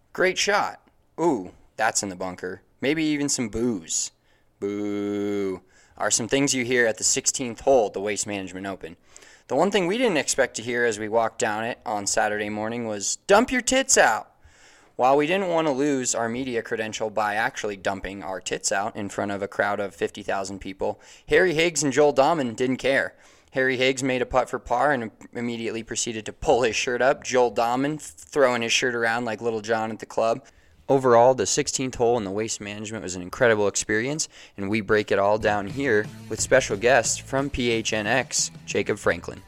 Great shot. Ooh, that's in the bunker. Maybe even some booze. Boo. Are some things you hear at the 16th hole at the Waste Management Open. The one thing we didn't expect to hear as we walked down it on Saturday morning was dump your tits out. While we didn't want to lose our media credential by actually dumping our tits out in front of a crowd of 50,000 people, Harry Higgs and Joel Dahman didn't care. Harry Higgs made a putt for par and immediately proceeded to pull his shirt up. Joel Dahman throwing his shirt around like Little John at the club. Overall, the 16th hole in the Waste Management was an incredible experience, and we break it all down here with special guests from PHNX, Jacob Franklin.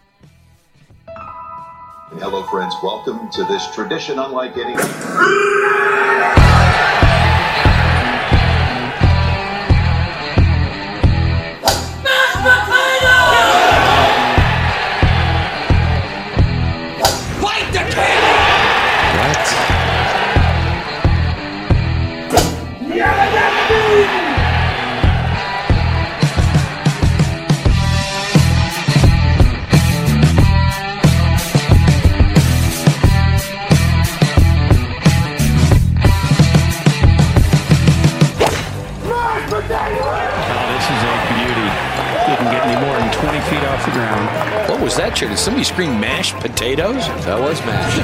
Hello, friends. Welcome to this tradition unlike any. What was that, Did somebody scream mashed potatoes? That was mashed.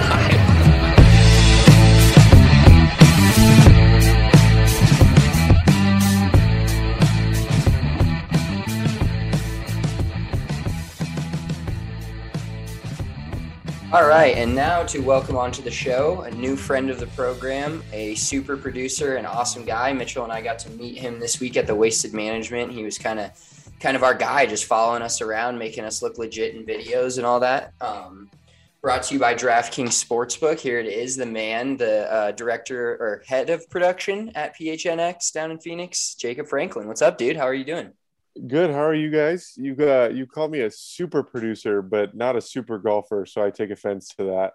All right, and now to welcome onto the show a new friend of the program, a super producer, an awesome guy. Mitchell and I got to meet him this week at the Wasted Management. He was kind of our guy, just following us around, making us look legit in videos and all that. Brought to you by DraftKings Sportsbook. Here it is, the man, the director or head of production at PHNX down in Phoenix, Jacob Franklin. What's up, dude? How are you doing? Good. How are you guys? You called me a super producer, but not a super golfer, so I take offense to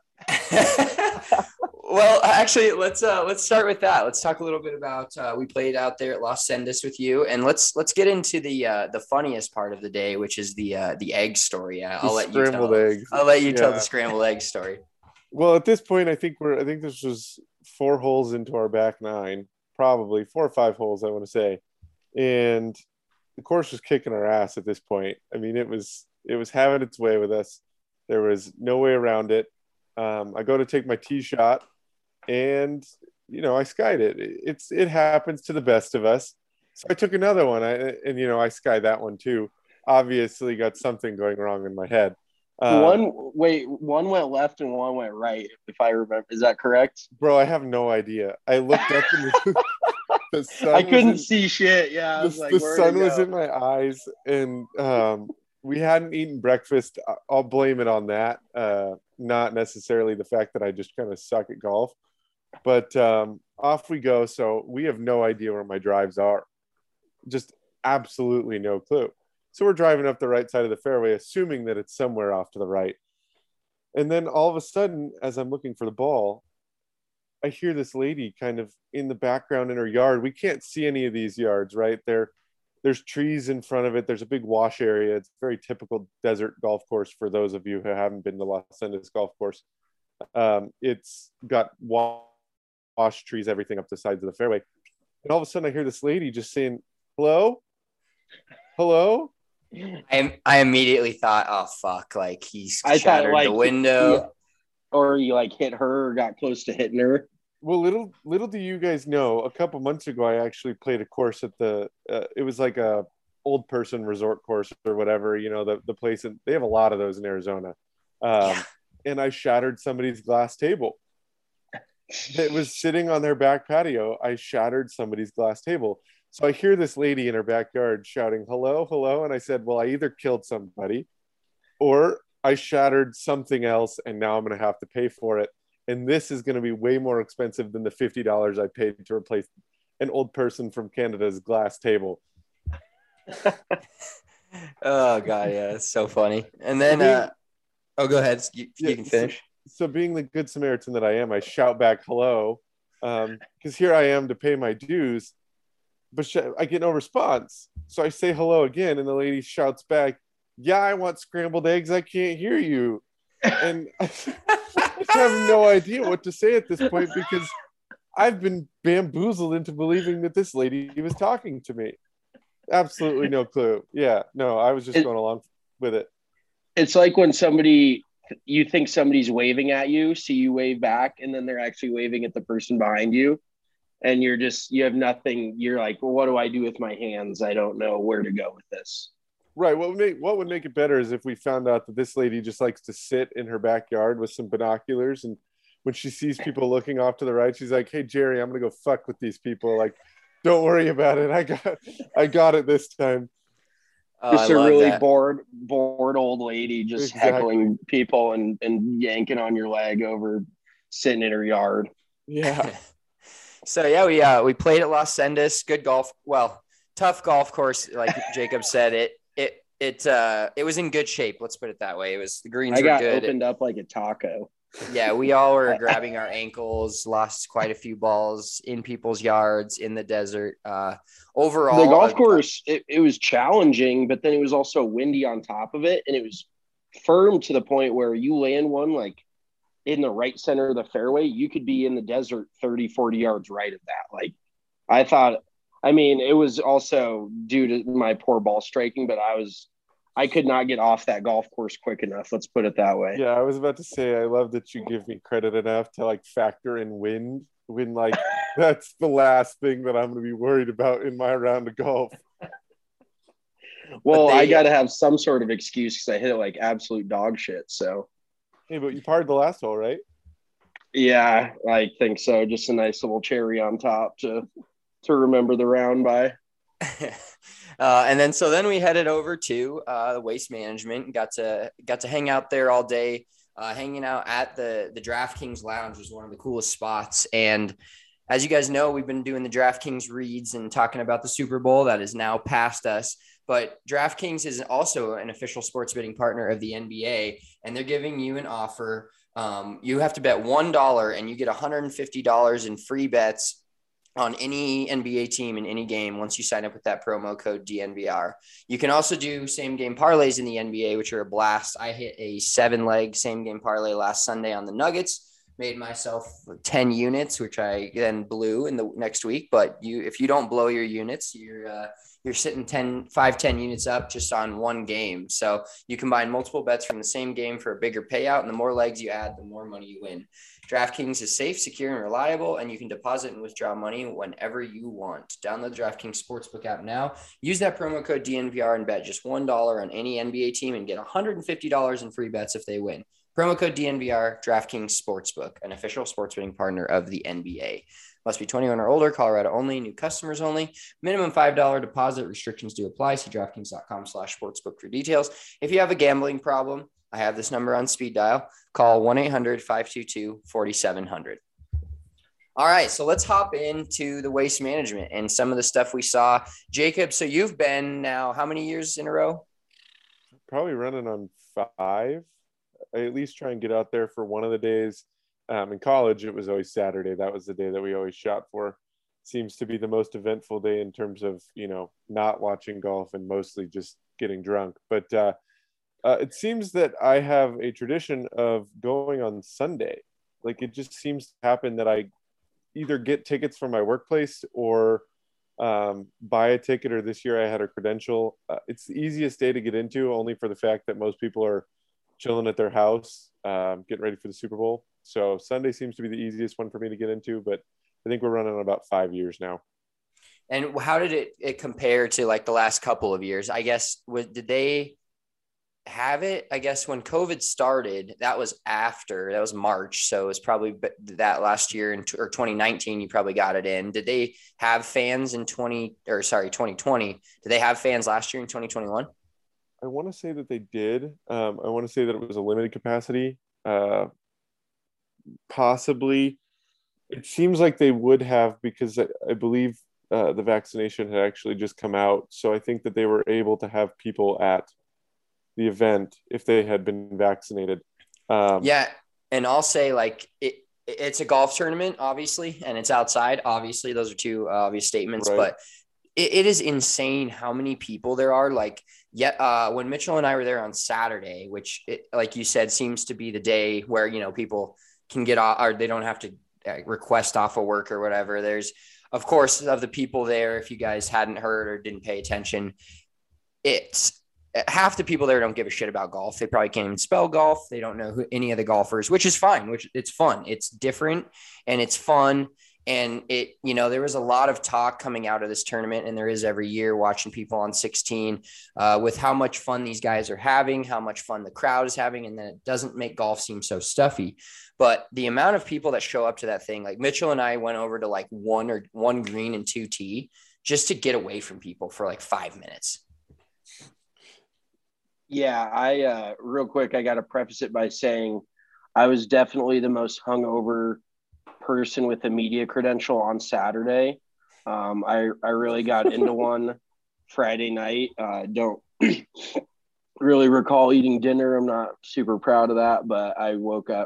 that. Well, actually, let's start with that. Let's talk a little bit about we played out there at Los Sendas with you, and let's get into the funniest part of the day, which is the egg story. I'll let you tell the scrambled egg story. Well, at this point, I think this was 4 holes into our back 9, probably 4 or 5 holes, I want to say, and the course was kicking our ass at this point. I mean, it was having its way with us. There was no way around it. I go to take my tee shot, and I skied it. It happens to the best of us. So I took another one, I skied that one too. Obviously, got something going wrong in my head. One went left and one went right, if I remember. Is that correct? Bro, I have no idea. I looked up and the sun. I couldn't see shit. Yeah, I was the sun was in my eyes, and we hadn't eaten breakfast. I'll blame it on that, not necessarily the fact that I just kind of suck at golf. But off we go. So we have no idea where my drives are. Just absolutely no clue. So we're driving up the right side of the fairway, assuming that it's somewhere off to the right. And then all of a sudden, as I'm looking for the ball, I hear this lady kind of in the background in her yard. We can't see any of these yards, right? There's trees in front of it. There's a big wash area. It's a very typical desert golf course for those of you who haven't been to Los Angeles golf course. It's got wash trees, everything up the sides of the fairway. And all of a sudden I hear this lady just saying, hello? I immediately thought, oh, fuck, like he's shattered the window. Or you hit her or got close to hitting her. Well, little do you guys know, a couple months ago, I actually played a course at it was like a old person resort course or whatever, the place, and they have a lot of those in Arizona. And I shattered somebody's glass table. It was sitting on their back patio. I shattered somebody's glass table. So I hear this lady in her backyard shouting, hello, hello. And I said, well, I either killed somebody or I shattered something else, and now I'm going to have to pay for it. And this is going to be way more expensive than the $50 I paid to replace an old person from Canada's glass table. Oh, God, yeah, it's so funny. And then, go ahead. You can finish. So being the good Samaritan that I am, I shout back hello, because here I am to pay my dues, but I get no response. So I say hello again, and the lady shouts back, yeah, I want scrambled eggs. I can't hear you. And I have no idea what to say at this point, because I've been bamboozled into believing that this lady was talking to me. Absolutely no clue. Yeah, no, I was just It, going along with it. it's like when you think somebody's waving at you, so you wave back, and then they're actually waving at the person behind you, and you have nothing. You're like, well, what do I do with my hands? I don't know where to go with this. Right. What would make it better is if we found out that this lady just likes to sit in her backyard with some binoculars, and when she sees people looking off to the right, she's like, "Hey Jerry, I'm gonna go fuck with these people. Like, don't worry about it. I got it this time." Oh, I Just a love really that. bored old lady just Exactly. heckling people and yanking on your leg over sitting in her yard. Yeah. So yeah, we played at Los Sendas. Good golf. Well, tough golf course, like Jacob said. It was in good shape. Let's put it that way. The greens I were got good. opened up like a taco. Yeah, we all were grabbing our ankles. Lost quite a few balls in people's yards in the desert. Overall, The golf course, it was challenging, but then it was also windy on top of it, and it was firm to the point where you land one like in the right center of the fairway, you could be in the desert 30, 40 yards right of that. Like, I thought, I mean, it was also due to my poor ball striking, but I could not get off that golf course quick enough. Let's put it that way. Yeah, I was about to say I love that you give me credit enough to like factor in wind when like that's the last thing that I'm going to be worried about in my round of golf. Well, they- I got to have some sort of excuse because I hit it like absolute dog shit. So, Hey, but you parred the last hole, right? yeah, I think so. Just a nice little cherry on top to remember the round by. and then we headed over to the Waste Management. Got to hang out there all day. Hanging out at the DraftKings Lounge was one of the coolest spots. And as you guys know, we've been doing the DraftKings reads and talking about the Super Bowl that is now past us. But DraftKings is also an official sports betting partner of the NBA, and they're giving you an offer. You have to bet $1 and you get $150 in free bets on any NBA team in any game once you sign up with that promo code DNVR. You can also do same game parlays in the NBA, which are a blast. I hit a 7-leg same game parlay last Sunday on the Nuggets, made myself 10 units, which I then blew in the next week. But if you don't blow your units, you're sitting 10 units up just on one game. So you combine multiple bets from the same game for a bigger payout, and the more legs you add, the more money you win. DraftKings is safe, secure, and reliable, and you can deposit and withdraw money whenever you want. Download the DraftKings Sportsbook app now. Use that promo code DNVR and bet just $1 on any NBA team and get $150 in free bets if they win. Promo code DNVR, DraftKings Sportsbook, an official sports betting partner of the NBA. Must be 21 or older, Colorado only, new customers only. Minimum $5 deposit. Restrictions do apply. See DraftKings.com/sportsbook for details. If you have a gambling problem, I have this number on speed dial. Call 1-800-522-4700. All right, so let's hop into the Waste Management and some of the stuff we saw. Jacob, so you've been now how many years in a row? Probably running on 5. I at least try and get out there for one of the days. In college, it was always Saturday. That was the day that we always shot for. Seems to be the most eventful day in terms of, not watching golf and mostly just getting drunk. But it seems that I have a tradition of going on Sunday. Like, it just seems to happen that I either get tickets from my workplace or buy a ticket, or this year I had a credential. It's the easiest day to get into, only for the fact that most people are chilling at their house, getting ready for the Super Bowl. So Sunday seems to be the easiest one for me to get into, but I think we're running on about 5 years now. And how did it compare to like the last couple of years? I guess, did they have it? I guess when COVID started, that was March. So it was probably that last year or 2019, you probably got it in. Did they have fans in 2020? Did they have fans last year in 2021? I want to say that they did. I want to say that it was a limited capacity. Possibly. It seems like they would have, because I believe the vaccination had actually just come out. So I think that they were able to have people at the event if they had been vaccinated. Yeah. And I'll say, like, it's a golf tournament, obviously, and it's outside. Obviously, those are two obvious statements, right. But it is insane how many people there are. Like, when Mitchell and I were there on Saturday, which, like you said, seems to be the day where, people can get off, or they don't have to request off of work or whatever. There's, of course, of the people there, if you guys hadn't heard or didn't pay attention, it's half the people there don't give a shit about golf. They probably can't even spell golf. They don't know any of the golfers, which is fine, which it's fun. It's different and it's fun. And there was a lot of talk coming out of this tournament, and there is every year watching people on 16 with how much fun these guys are having, how much fun the crowd is having, and then it doesn't make golf seem so stuffy. But the amount of people that show up to that thing, like Mitchell and I went over to like one green and 2 tee just to get away from people for like 5 minutes. Yeah, I real quick, I got to preface it by saying I was definitely the most hungover person with a media credential on Saturday. I really got into one Friday night. Don't really recall eating dinner. I'm not super proud of that, but I woke up.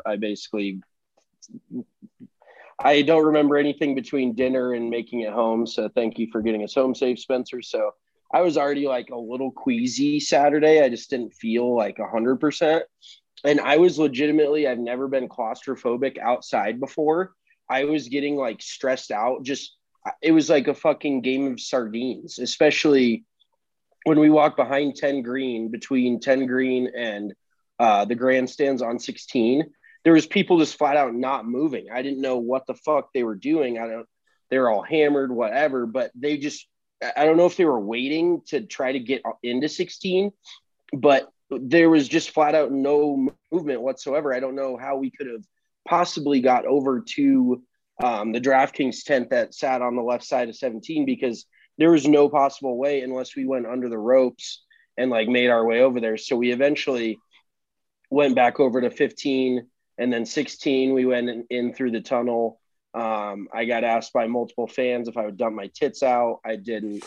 I don't remember anything between dinner and making it home. So thank you for getting us home safe, Spencer. So I was already like a little queasy Saturday. I just didn't feel like 100%. And I was legitimately, I've never been claustrophobic outside before. I was getting like stressed out. It was like a fucking game of sardines, especially when we walked behind 10 green, between 10 green and the grandstands on 16. There was people just flat out not moving. I didn't know what the fuck they were doing. They were all hammered, whatever, but I don't know if they were waiting to try to get into 16, but there was just flat out no movement whatsoever. I don't know how we could have possibly got over to the DraftKings tent that sat on the left side of 17, because there was no possible way unless we went under the ropes and like made our way over there. So we eventually went back over to 15, and then 16, we went in through the tunnel. I got asked by multiple fans if I would dump my tits out. I didn't.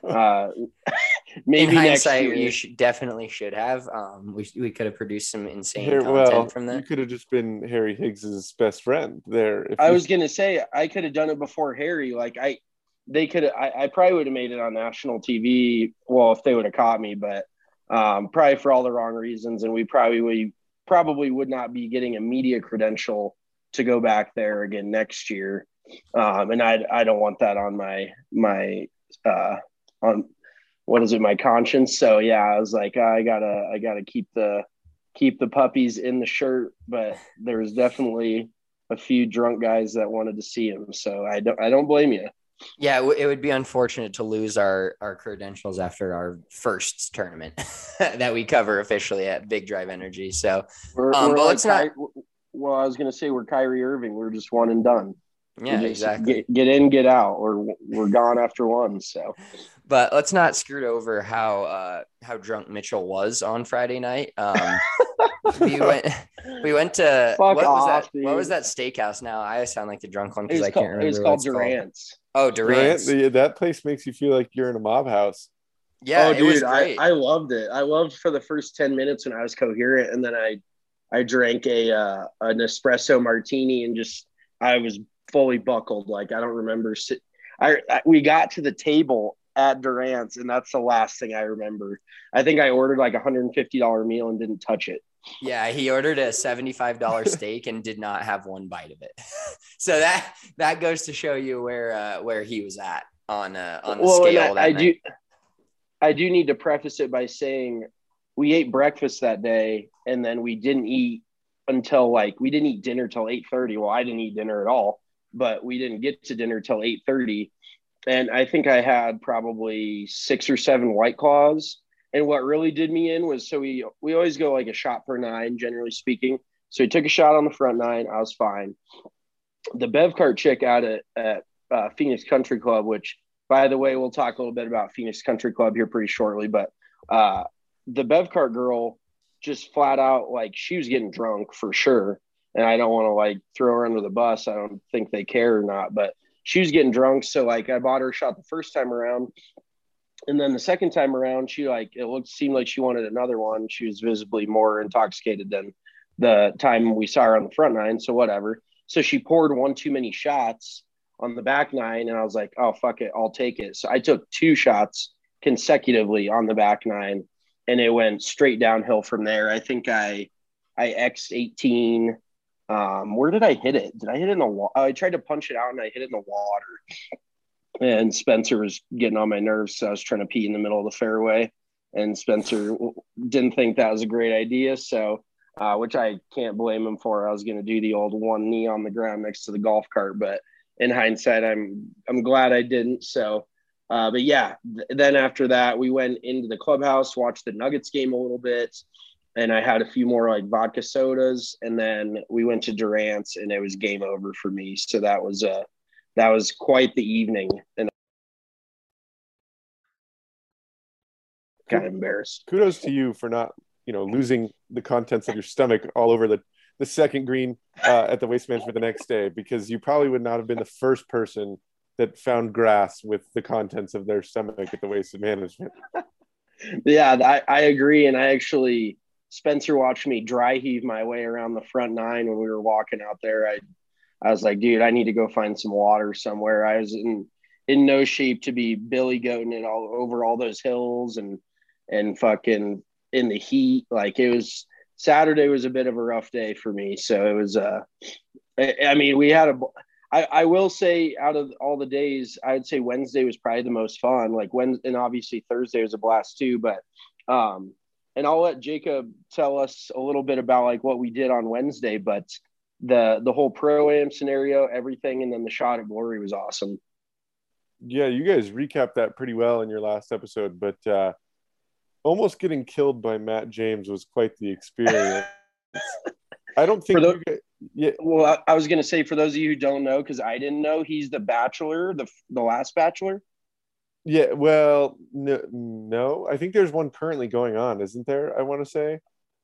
Maybe in next hindsight, year. you definitely should have. We could have produced some insane content from that. You could have just been Harry Higgs's best friend there. I was gonna say I could have done it before Harry. Like I probably would have made it on national TV. Well, if they would have caught me, but probably for all the wrong reasons, and we probably would not be getting a media credential to go back there again next year. And I don't want that on my on what is it, my conscience. So yeah, I was like, I gotta keep the puppies in the shirt, but there was definitely a few drunk guys that wanted to see him. So I don't blame you. Yeah, it would be unfortunate to lose our credentials after our first tournament that we cover officially at Big Drive Energy. So, but let's not. Well, I was going to say we're Kyrie Irving. We're just one and done. Yeah, exactly. Get in, get out, or we're gone after one. So, but let's not skirt over how drunk Mitchell was on Friday night. We went to what was that steakhouse? Now I sound like the drunk one because I can't remember. It was called Durant's. Oh, Durant's. That place makes you feel like you're in a mob house. Yeah, dude, it was great. I loved it. I loved for the first 10 minutes when I was coherent, and then I drank an espresso martini and I was fully buckled. Like I don't remember. We got to the table at Durant's, and that's the last thing I remember. I think I ordered like $150 meal and didn't touch it. Yeah, he ordered a $75 steak and did not have one bite of it. So that goes to show you where he was at on the scale. I do need to preface it by saying we ate breakfast that day, and then we didn't eat until we didn't eat dinner till 8:30. Well, I didn't eat dinner at all, but we didn't get to dinner till 8:30. And I think I had probably 6 or 7 White Claws. And what really did me in was, so we always go like a shot per 9, generally speaking. So we took a shot on the front 9. I was fine. The Bev Cart chick out at Phoenix Country Club, which, by the way, we'll talk a little bit about Phoenix Country Club here pretty shortly. But the Bev Cart girl just flat out, she was getting drunk for sure. And I don't want to throw her under the bus. I don't think they care or not, but she was getting drunk. So I bought her a shot the first time around. And then the second time around, she seemed like she wanted another one. She was visibly more intoxicated than the time we saw her on the front 9. So whatever. So she poured one too many shots on the back 9. And I was like, oh, fuck it. I'll take it. So I took 2 shots consecutively on the back 9, and it went straight downhill from there. I think I X'd 18, Where did I hit it? Did I hit it in the water? I tried to punch it out and I hit it in the water. And Spencer was getting on my nerves, so I was trying to pee in the middle of the fairway. And Spencer didn't think that was a great idea, so which I can't blame him for. I was going to do the old one knee on the ground next to the golf cart, but in hindsight, I'm glad I didn't. So, but yeah, then after that, we went into the clubhouse, watched the Nuggets game a little bit, and I had a few more like vodka sodas, and then we went to Durant's, and it was game over for me. So that was quite the evening, and I got embarrassed. Kudos to you for not, losing the contents of your stomach all over the second green at the Waste Management the next day, because you probably would not have been the first person that found grass with the contents of their stomach at the Waste Management. Yeah, I agree. And Spencer watched me dry heave my way around the front nine when we were walking out there. I was like, dude, I need to go find some water somewhere. I was in no shape to be billy goating it all over all those hills and fucking in the heat. Like Saturday was a bit of a rough day for me. So it was, I mean, I will say out of all the days, I'd say Wednesday was probably the most fun. And obviously Thursday was a blast too, but, and I'll let Jacob tell us a little bit about like what we did on Wednesday, but the whole pro-am scenario, everything, and then the shot at glory was awesome. Yeah, you guys recapped that pretty well in your last episode, but almost getting killed by Matt James was quite the experience. I don't think yeah. Well, I was going to say, for those of you who don't know, because I didn't know, he's the Bachelor, the last Bachelor. Yeah, well, no, I think there's one currently going on, isn't there? I want to say.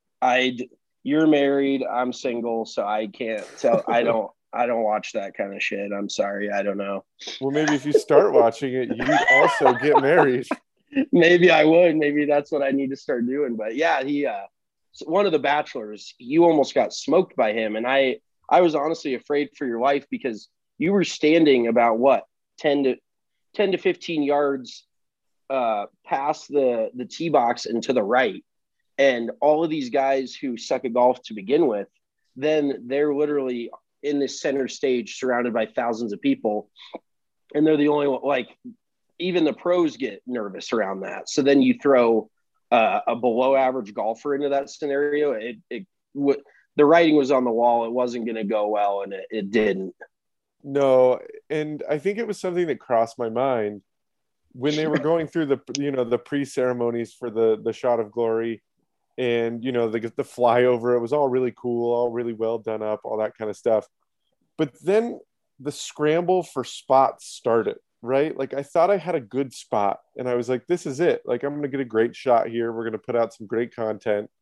You're married. I'm single, so I can't tell. I don't watch that kind of shit. I'm sorry. I don't know. Well, maybe if you start watching it, you'd also get married. Maybe I would. Maybe that's what I need to start doing. But yeah, he one of the Bachelors, you almost got smoked by him. And I was honestly afraid for your life, because you were standing about what, 10 to 15 yards past the tee box and to the right. And all of these guys who suck at golf to begin with, then they're literally in this center stage surrounded by thousands of people. And they're the only one, like, even the pros get nervous around that. So then you throw a below average golfer into that scenario. The writing was on the wall. It wasn't going to go well, and it didn't. No. And I think it was something that crossed my mind when they were going through the pre-ceremonies for the shot of glory. And, the flyover, it was all really cool, all really well done up, all that kind of stuff. But then the scramble for spots started, right? Like, I thought I had a good spot, and I was like, this is it. Like, I'm going to get a great shot here. We're going to put out some great content.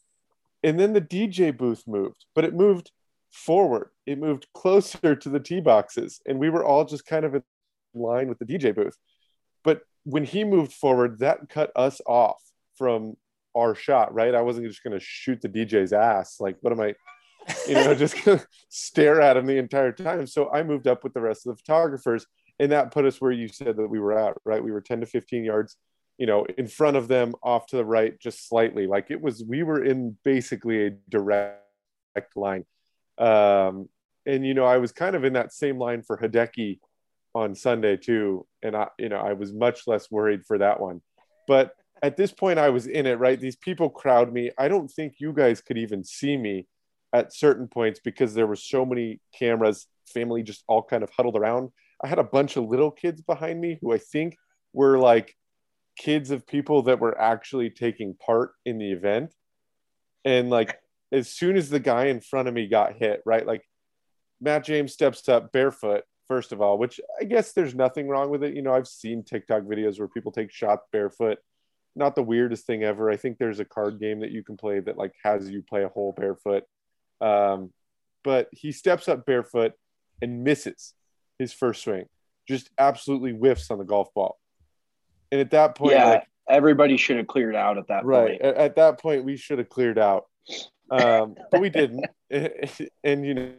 And then the DJ booth moved, but it moved forward. It moved closer to the tee boxes, and we were all just kind of in line with the DJ booth. But when he moved forward, that cut us off from our shot, right? I wasn't just going to shoot the DJ's ass. Like, what am I, just going to stare at him the entire time? So I moved up with the rest of the photographers, and that put us where you said that we were at, right? We were 10 to 15 yards, in front of them, off to the right, just slightly. Like, we were in basically a direct line. And, I was kind of in that same line for Hideki on Sunday too. And I was much less worried for that one, but at this point I was in it, right? These people crowd me. I don't think you guys could even see me at certain points because there were so many cameras, family just all kind of huddled around. I had a bunch of little kids behind me who I think were like kids of people that were actually taking part in the event. And like, as soon as the guy in front of me got hit, right? Like, Matt James steps up barefoot, first of all, which I guess there's nothing wrong with it. I've seen TikTok videos where people take shots barefoot. Not the weirdest thing ever. I think there's a card game that you can play that like has you play a hole barefoot. But he steps up barefoot and misses his first swing. Just absolutely whiffs on the golf ball. And at that point, everybody should have cleared out at that point. At that point, we should have cleared out. But we didn't. And,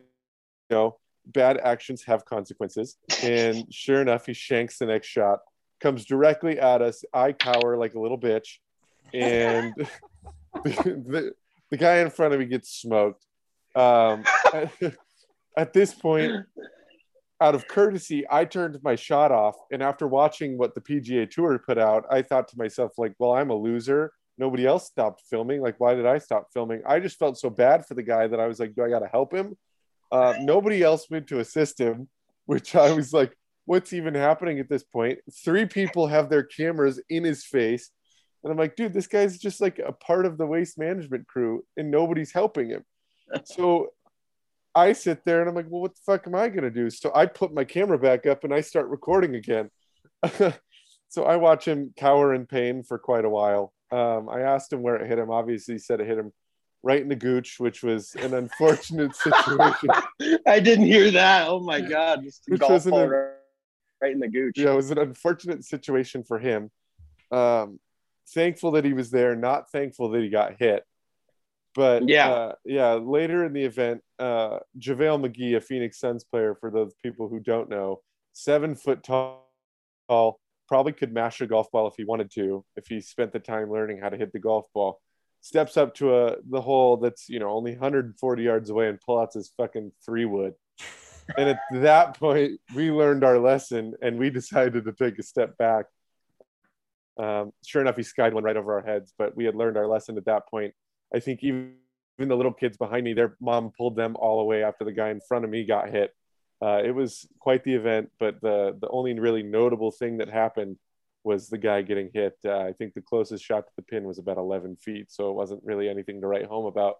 bad actions have consequences. And sure enough, he shanks the next shot, comes directly at us. I cower like a little bitch. And the guy in front of me gets smoked. At this point, out of courtesy, I turned my shot off. And after watching what the PGA Tour put out, I thought to myself, like, well, I'm a loser. Nobody else stopped filming. Like, why did I stop filming? I just felt so bad for the guy that I was like, do I got to help him? Nobody else went to assist him, which I was like, what's even happening at this point? 3 people have their cameras in his face. And I'm like, dude, this guy's just like a part of the waste management crew and nobody's helping him. So I sit there and I'm like, well, what the fuck am I going to do? So I put my camera back up and I start recording again. So I watch him cower in pain for quite a while. I asked him where it hit him. Obviously, he said it hit him right in the gooch, which was an unfortunate situation. I didn't hear that. Oh my God. Just Which golf was ball right in the gooch. Yeah, it was an unfortunate situation for him. Thankful that he was there, not thankful that he got hit. But later in the event, JaVale McGee, a Phoenix Suns player, for those people who don't know, 7 foot tall, probably could mash a golf ball if he wanted to, if he spent the time learning how to hit the golf ball, steps up to the hole that's, only 140 yards away and pull out his fucking 3-wood. And at that point, we learned our lesson and we decided to take a step back. Sure enough, he skied one right over our heads, but we had learned our lesson at that point. I think even the little kids behind me, their mom pulled them all away after the guy in front of me got hit. It was quite the event, but the only really notable thing that happened was the guy getting hit. I think the closest shot to the pin was about 11 feet, so it wasn't really anything to write home about.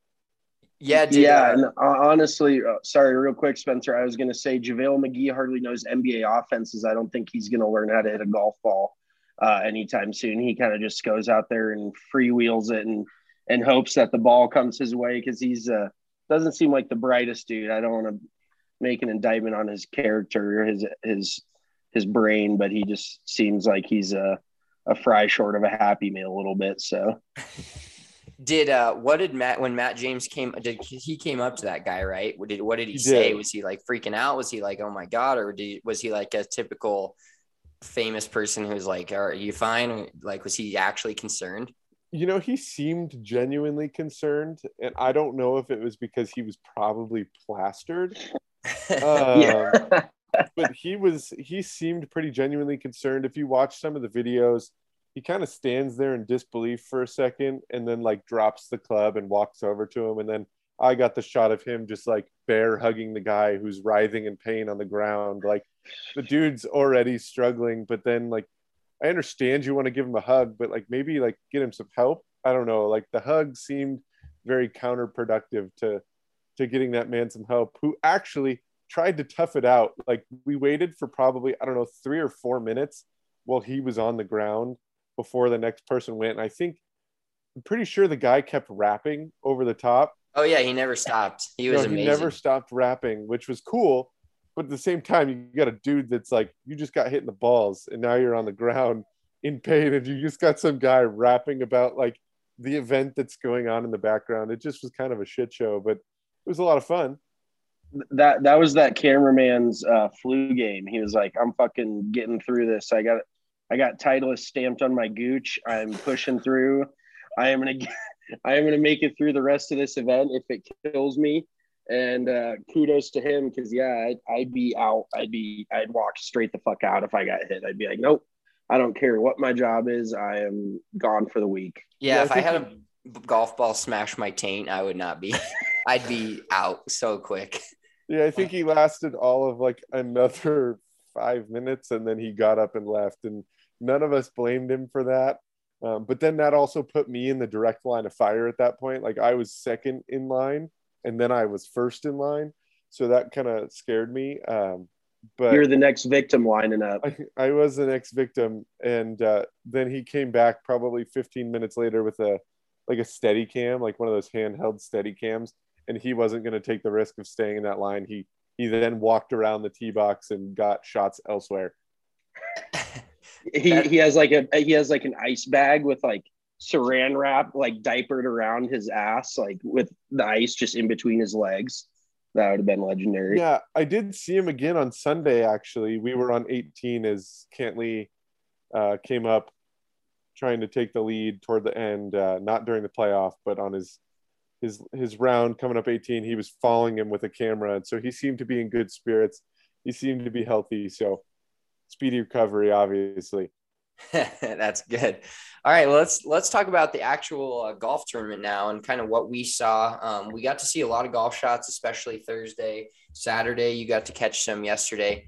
And honestly, sorry, real quick, Spencer, I was going to say JaVale McGee hardly knows NBA offenses. I don't think he's going to learn how to hit a golf ball anytime soon. He kind of just goes out there and freewheels it and hopes that the ball comes his way, because he's doesn't seem like the brightest dude. I don't want to make an indictment on his character or his brain, but he just seems like he's a fry short of a Happy Meal a little bit. So when Matt James came up to that guy, right? What did he say? Was he like freaking out? Was he like, oh my God? Or was he like a typical famous person who's like, are you fine? Like, was he actually concerned? He seemed genuinely concerned, and I don't know if it was because he was probably plastered. But he seemed pretty genuinely concerned. If you watch some of the videos, he kind of stands there in disbelief for a second and then like drops the club and walks over to him. And then I got the shot of him just like bear hugging the guy who's writhing in pain on the ground. Like, the dude's already struggling, but then like, I understand you want to give him a hug, but like maybe like get him some help. I don't know. Like, the hug seemed very counterproductive to getting that man some help, who actually tried to tough it out. Like, we waited for probably, 3 or 4 minutes while he was on the ground before the next person went. And I'm pretty sure the guy kept rapping over the top. Oh yeah, he never stopped. He was amazing. He never stopped rapping, which was cool. But at the same time, you got a dude that's like, you just got hit in the balls and now you're on the ground in pain, and you just got some guy rapping about like the event that's going on in the background. It just was kind of a shit show, but it was a lot of fun. That was that cameraman's flu game. He was like, I'm fucking getting through this. I got Titleist stamped on my gooch. I'm pushing through. I am gonna make it through the rest of this event if it kills me. And kudos to him, because I'd be out. I'd walk straight the fuck out if I got hit. I'd be like, nope, I don't care what my job is. I am gone for the week. Yeah, if I had a golf ball smash my taint, I would not be. I'd be out so quick. Yeah, I think he lasted all of like another 5 minutes, and then he got up and left, and none of us blamed him for that. But then that also put me in the direct line of fire at that point. Like, I was second in line, and then I was first in line. So that kind of scared me. But you're the next victim lining up. I was the next victim. And then he came back probably 15 minutes later with a steady cam, like one of those handheld steady cams. And he wasn't going to take the risk of staying in that line. He then walked around the tee box and got shots elsewhere. He has like an ice bag with like saran wrap like diapered around his ass, like with the ice just in between his legs. That would have been legendary. Yeah, I did see him again on Sunday, actually. We were on 18 as Cantley came up trying to take the lead toward the end, not during the playoff, but on his his round coming up 18, he was following him with a camera, and so he seemed to be in good spirits. He seemed to be healthy, so speedy recovery, obviously. That's good. All right, well, let's talk about the actual golf tournament now and kind of what we saw. We got to see a lot of golf shots, especially Thursday, Saturday. You got to catch some yesterday.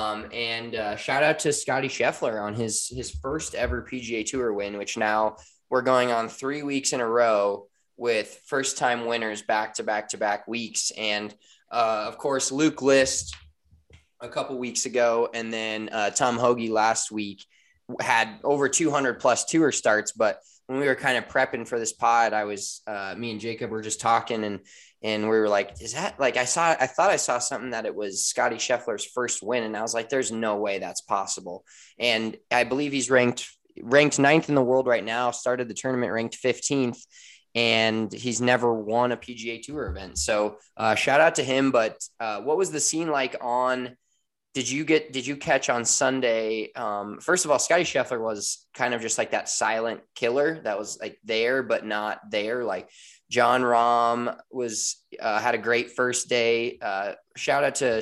And shout out to Scotty Scheffler on his first ever PGA Tour win, which now we're going on 3 weeks in a row with first time winners back to back to back weeks. And of course, Luke List a couple weeks ago, and then Tom Hoagie last week had over 200 plus tour starts. But when we were kind of prepping for this pod, me and Jacob were just talking, and we were like, is that like, I thought I saw something that it was Scotty Scheffler's first win. And I was like, there's no way that's possible. And I believe he's ranked ninth in the world right now, started the tournament ranked 15th, and he's never won a PGA Tour event. So shout out to him. But what was the scene like did you catch on Sunday? First of all, Scotty Scheffler was kind of just like that silent killer that was like there, but not there. Like John Rahm had a great first day. Shout out to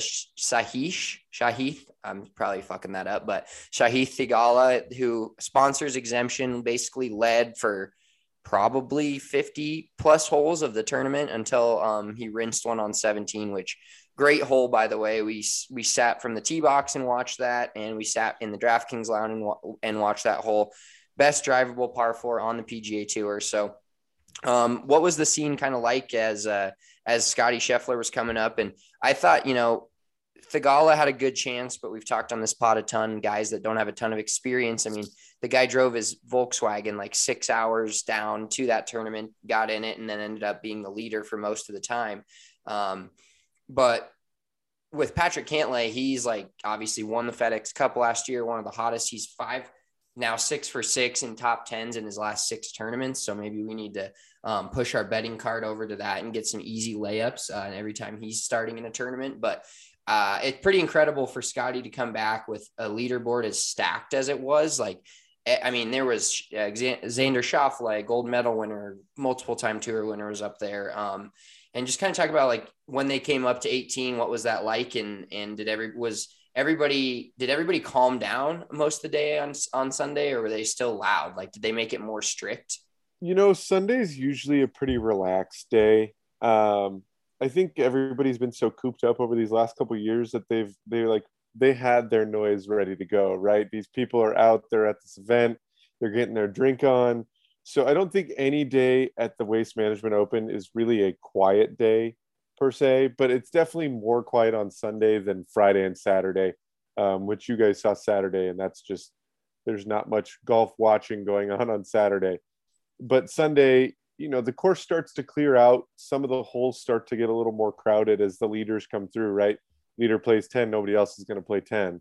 Shahith. I'm probably fucking that up, but Shahith Theegala, who sponsors exemption, basically led for probably 50 plus holes of the tournament until he rinsed one on 17, which great hole, by the way. We sat from the tee box and watched that, and we sat in the DraftKings lounge and watched that hole. Best drivable par 4 on the PGA Tour. So what was the scene kind of like as Scotty Scheffler was coming up? And I thought, Theegala had a good chance, but we've talked on this pod a ton, guys that don't have a ton of experience. I mean, the guy drove his Volkswagen like 6 hours down to that tournament, got in it, and then ended up being the leader for most of the time. But with Patrick Cantlay, he's like obviously won the FedEx Cup last year, one of the hottest. He's 6 for 6 in top 10s in his last 6 tournaments. So maybe we need to push our betting card over to that and get some easy layups every time he's starting in a tournament. But it's pretty incredible for Scotty to come back with a leaderboard as stacked as it was. Like, I mean, there was Xander Schauffele, gold medal winner, multiple time tour winner was up there. And just kind of talk about like when they came up to 18, what was that like? And did everybody calm down most of the day on Sunday, or were they still loud? Like, did they make it more strict? Sunday's usually a pretty relaxed day. I think everybody's been so cooped up over these last couple of years that they had their noise ready to go, right? These people are out there at this event, they're getting their drink on. So I don't think any day at the Waste Management Open is really a quiet day per se, but it's definitely more quiet on Sunday than Friday and Saturday, which you guys saw Saturday. And that's just, there's not much golf watching going on Saturday. But Sunday, the course starts to clear out. Some of the holes start to get a little more crowded as the leaders come through, right? Leader plays 10, nobody else is going to play 10.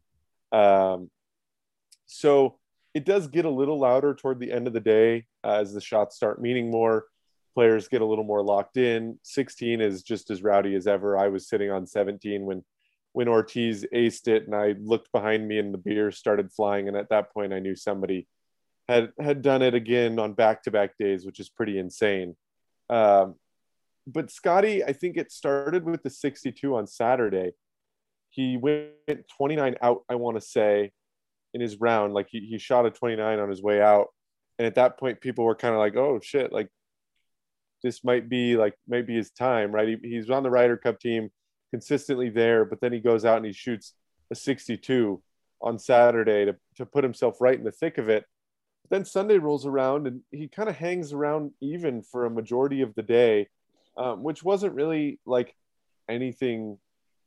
So it does get a little louder toward the end of the day as the shots start meaning more. Players get a little more locked in. 16 is just as rowdy as ever. I was sitting on 17 when Ortiz aced it, and I looked behind me and the beer started flying. And at that point, I knew somebody had done it again on back-to-back days, which is pretty insane. But Scotty, I think it started with the 62 on Saturday. He went 29 out, I want to say, in his round. Like he shot a 29 on his way out. And at that point, people were kind of like, oh shit, like this might be his time, right? He's on the Ryder Cup team, consistently there, but then he goes out and he shoots a 62 on Saturday to put himself right in the thick of it. But then Sunday rolls around and he kind of hangs around even for a majority of the day, which wasn't really like anything.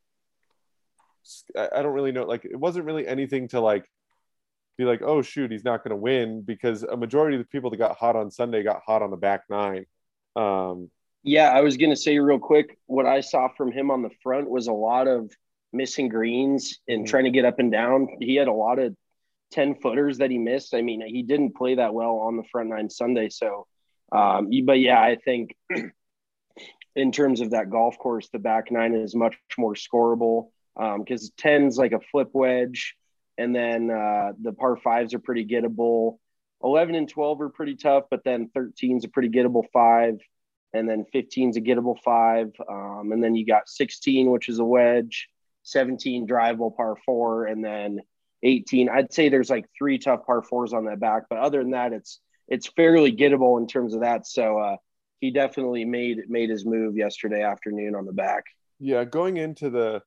I don't really know. Like, it wasn't really anything to like be like, oh shoot, he's not going to win, because a majority of the people that got hot on Sunday got hot on the back nine. Yeah, I was going to say real quick, what I saw from him on the front was a lot of missing greens and trying to get up and down. He had a lot of 10-footers that he missed. I mean, he didn't play that well on the front nine Sunday. So, but yeah, I think in terms of that golf course, the back nine is much more scoreable because 10's like a flip wedge. And then the par fives are pretty gettable. 11 and 12 are pretty tough, but then 13's a pretty gettable 5. and then 15 is a gettable 5, and then you got 16, which is a wedge, 17 drivable par 4, and then 18. I'd say there's like 3 tough par 4s on that back, but other than that, it's fairly gettable in terms of that. So he definitely made his move yesterday afternoon on the back. Yeah, going into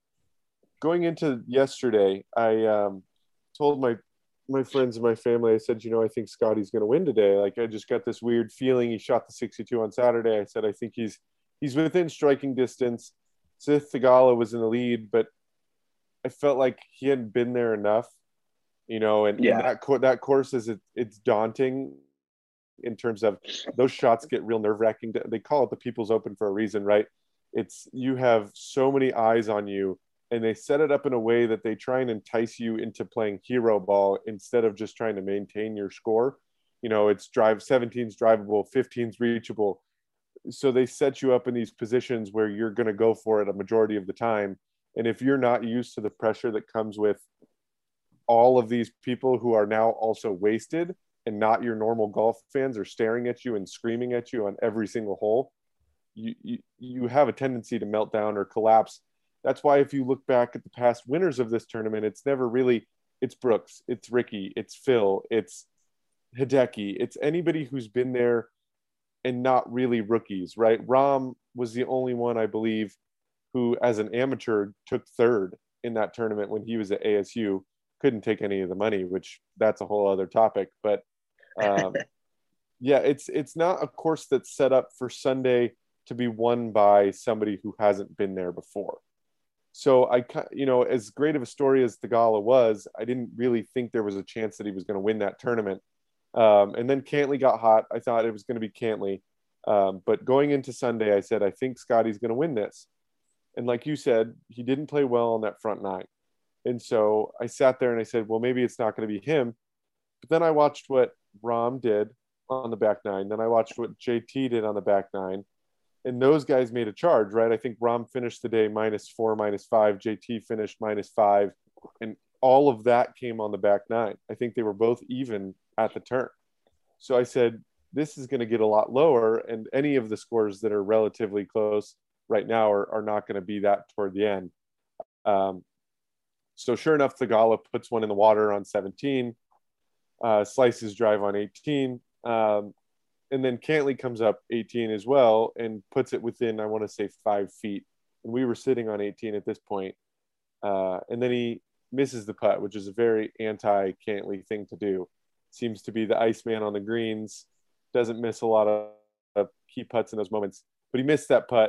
yesterday, I told my friends and my family, I said, I think Scotty's going to win today. Like, I just got this weird feeling. He shot the 62 on Saturday. I said, I think he's within striking distance. Seth Theegala was in the lead, but I felt like he hadn't been there enough, and that course it's daunting in terms of those shots get real nerve-wracking. They call it the People's Open for a reason, right? You have so many eyes on you, and they set it up in a way that they try and entice you into playing hero ball instead of just trying to maintain your score. It's 17's drivable, 15's reachable. So they set you up in these positions where you're going to go for it a majority of the time. And if you're not used to the pressure that comes with all of these people who are now also wasted and not your normal golf fans are staring at you and screaming at you on every single hole, you have a tendency to melt down or collapse. That's why if you look back at the past winners of this tournament, it's never really, it's Brooks, it's Ricky, it's Phil, it's Hideki, it's anybody who's been there and not really rookies, right? Rahm was the only one, I believe, who as an amateur took third in that tournament when he was at ASU. Couldn't take any of the money, which that's a whole other topic. But yeah, it's not a course that's set up for Sunday to be won by somebody who hasn't been there before. So as great of a story as Theegala was, I didn't really think there was a chance that he was going to win that tournament. And then Cantlay got hot. I thought it was going to be Cantlay. But going into Sunday, I said, I think Scotty's going to win this. And like you said, he didn't play well on that front 9. And so I sat there and I said, well, maybe it's not going to be him. But then I watched what Rahm did on the back 9. Then I watched what JT did on the back 9. And those guys made a charge, right? I think Rahm finished the day -4, -5. JT finished -5. And all of that came on the back 9. I think they were both even at the turn. So I said, this is going to get a lot lower. And any of the scores that are relatively close right now are not going to be that toward the end. So sure enough, Theegala puts one in the water on 17, slices drive on 18. And then Cantlay comes up 18 as well and puts it within, I want to say 5 feet. And we were sitting on 18 at this point. And then he misses the putt, which is a very anti-Cantlay thing to do. Seems to be the Iceman on the greens, doesn't miss a lot of key putts in those moments, but he missed that putt.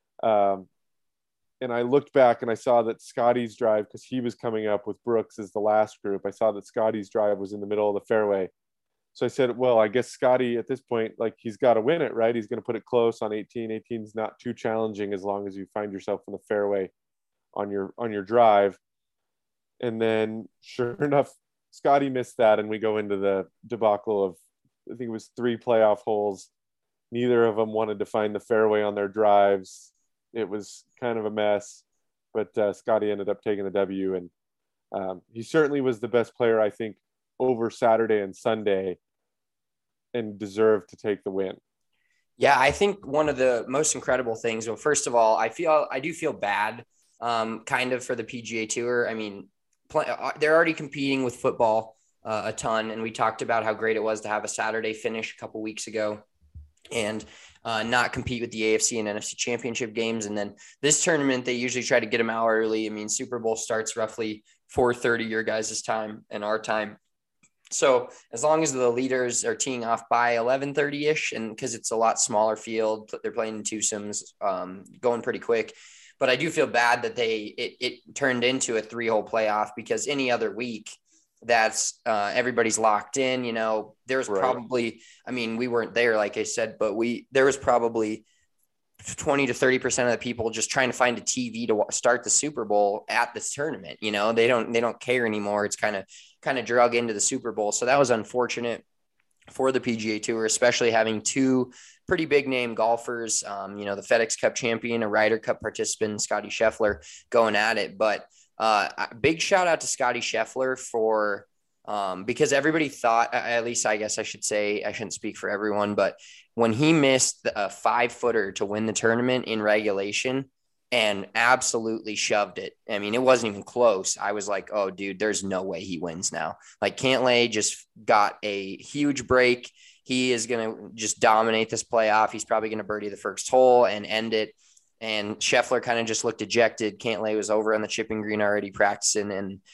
And I looked back and I saw that Scotty's drive, because he was coming up with Brooks as the last group, I saw that Scotty's drive was in the middle of the fairway. So I said, well, I guess Scotty at this point, like, he's got to win it, right? He's going to put it close on 18. 18 is not too challenging as long as you find yourself in the fairway on your drive. And then sure enough, Scotty missed that. And we go into the debacle of, I think it was 3 playoff holes. Neither of them wanted to find the fairway on their drives. It was kind of a mess, but Scotty ended up taking the W. And he certainly was the best player, I think, over Saturday and Sunday, and deserved to take the win. Yeah, I think one of the most incredible things, well, first of all, I do feel bad kind of for the PGA Tour. I mean, they're already competing with football a ton, and we talked about how great it was to have a Saturday finish a couple weeks ago and not compete with the AFC and NFC championship games. And then this tournament, they usually try to get them out early. I mean, Super Bowl starts roughly 4:30 your guys' time and our time. So as long as the leaders are teeing off by 11:30-ish, and because it's a lot smaller field, they're playing in twosomes, going pretty quick. But I do feel bad that it turned into a 3-hole playoff, because any other week that's everybody's locked in. You know, there's probably, I mean, we weren't there, like I said, but there was probably 20 to 30% of the people just trying to find a TV to start the Super Bowl at this tournament. You know, they don't care anymore. It's kind of drug into the Super Bowl. So that was unfortunate for the PGA Tour, especially having 2 pretty big name golfers, you know, the FedEx Cup champion, a Ryder Cup participant, Scotty Scheffler, going at it. But big shout out to Scotty Scheffler for, because everybody thought, at least I guess I should say, I shouldn't speak for everyone, but when he missed a 5-footer to win the tournament in regulation and absolutely shoved it. I mean, it wasn't even close. I was like, oh, dude, there's no way he wins now. Like, Cantlay just got a huge break. He is going to just dominate this playoff. He's probably going to birdie the first hole and end it. And Scheffler kind of just looked dejected. Cantlay was over on the chipping green already practicing.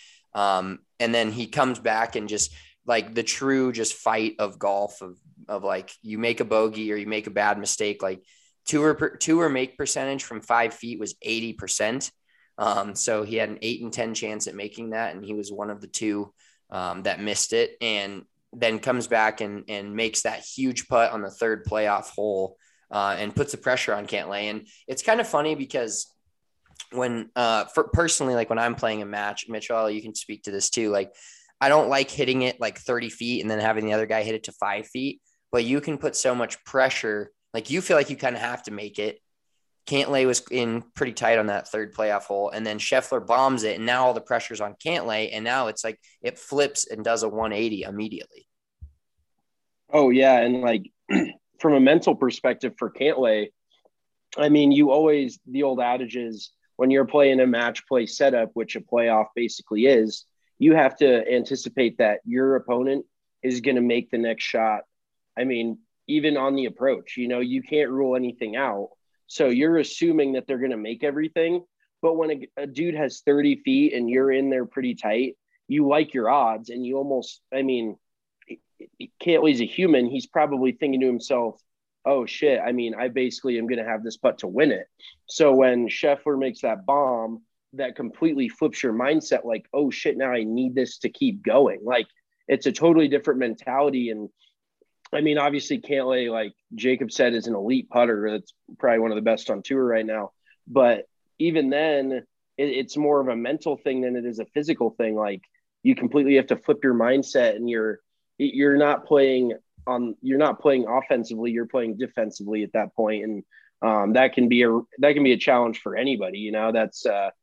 And then he comes back and just like the true just fight of golf of like you make a bogey or you make a bad mistake. Like tour make percentage from 5 feet was 80%. So he had an 8 in 10 chance at making that. And he was one of the two that missed it. And then comes back and makes that huge putt on the third playoff hole and puts the pressure on Cantlay. And it's kind of funny because when personally, like when I'm playing a match, Mitchell, you can speak to this too. Like, I don't like hitting it like 30 feet and then having the other guy hit it to 5 feet, but you can put so much pressure. Like, you feel like you kind of have to make it. Cantlay was in pretty tight on that third playoff hole, and then Scheffler bombs it, and now all the pressure's on Cantlay, and now it's like it flips and does a 180 immediately. Oh yeah, and like from a mental perspective for Cantlay, I mean, the old adage is when you're playing a match play setup, which a playoff basically is, you have to anticipate that your opponent is going to make the next shot. I mean, even on the approach, you can't rule anything out. So you're assuming that they're going to make everything. But when a dude has 30 feet and you're in there pretty tight, you like your odds and you almost, I mean, Cantlay's a human. He's probably thinking to himself, oh shit, I mean, I basically am going to have this putt to win it. So when Scheffler makes that bomb, that completely flips your mindset like, oh shit, now I need this to keep going. Like, it's a totally different mentality. And I mean, obviously Cantlay, like Jacob said, is an elite putter. That's probably one of the best on tour right now. But even then, it's more of a mental thing than it is a physical thing. Like, you completely have to flip your mindset, and you're not playing offensively, you're playing defensively at that point. And that can be a challenge for anybody. That's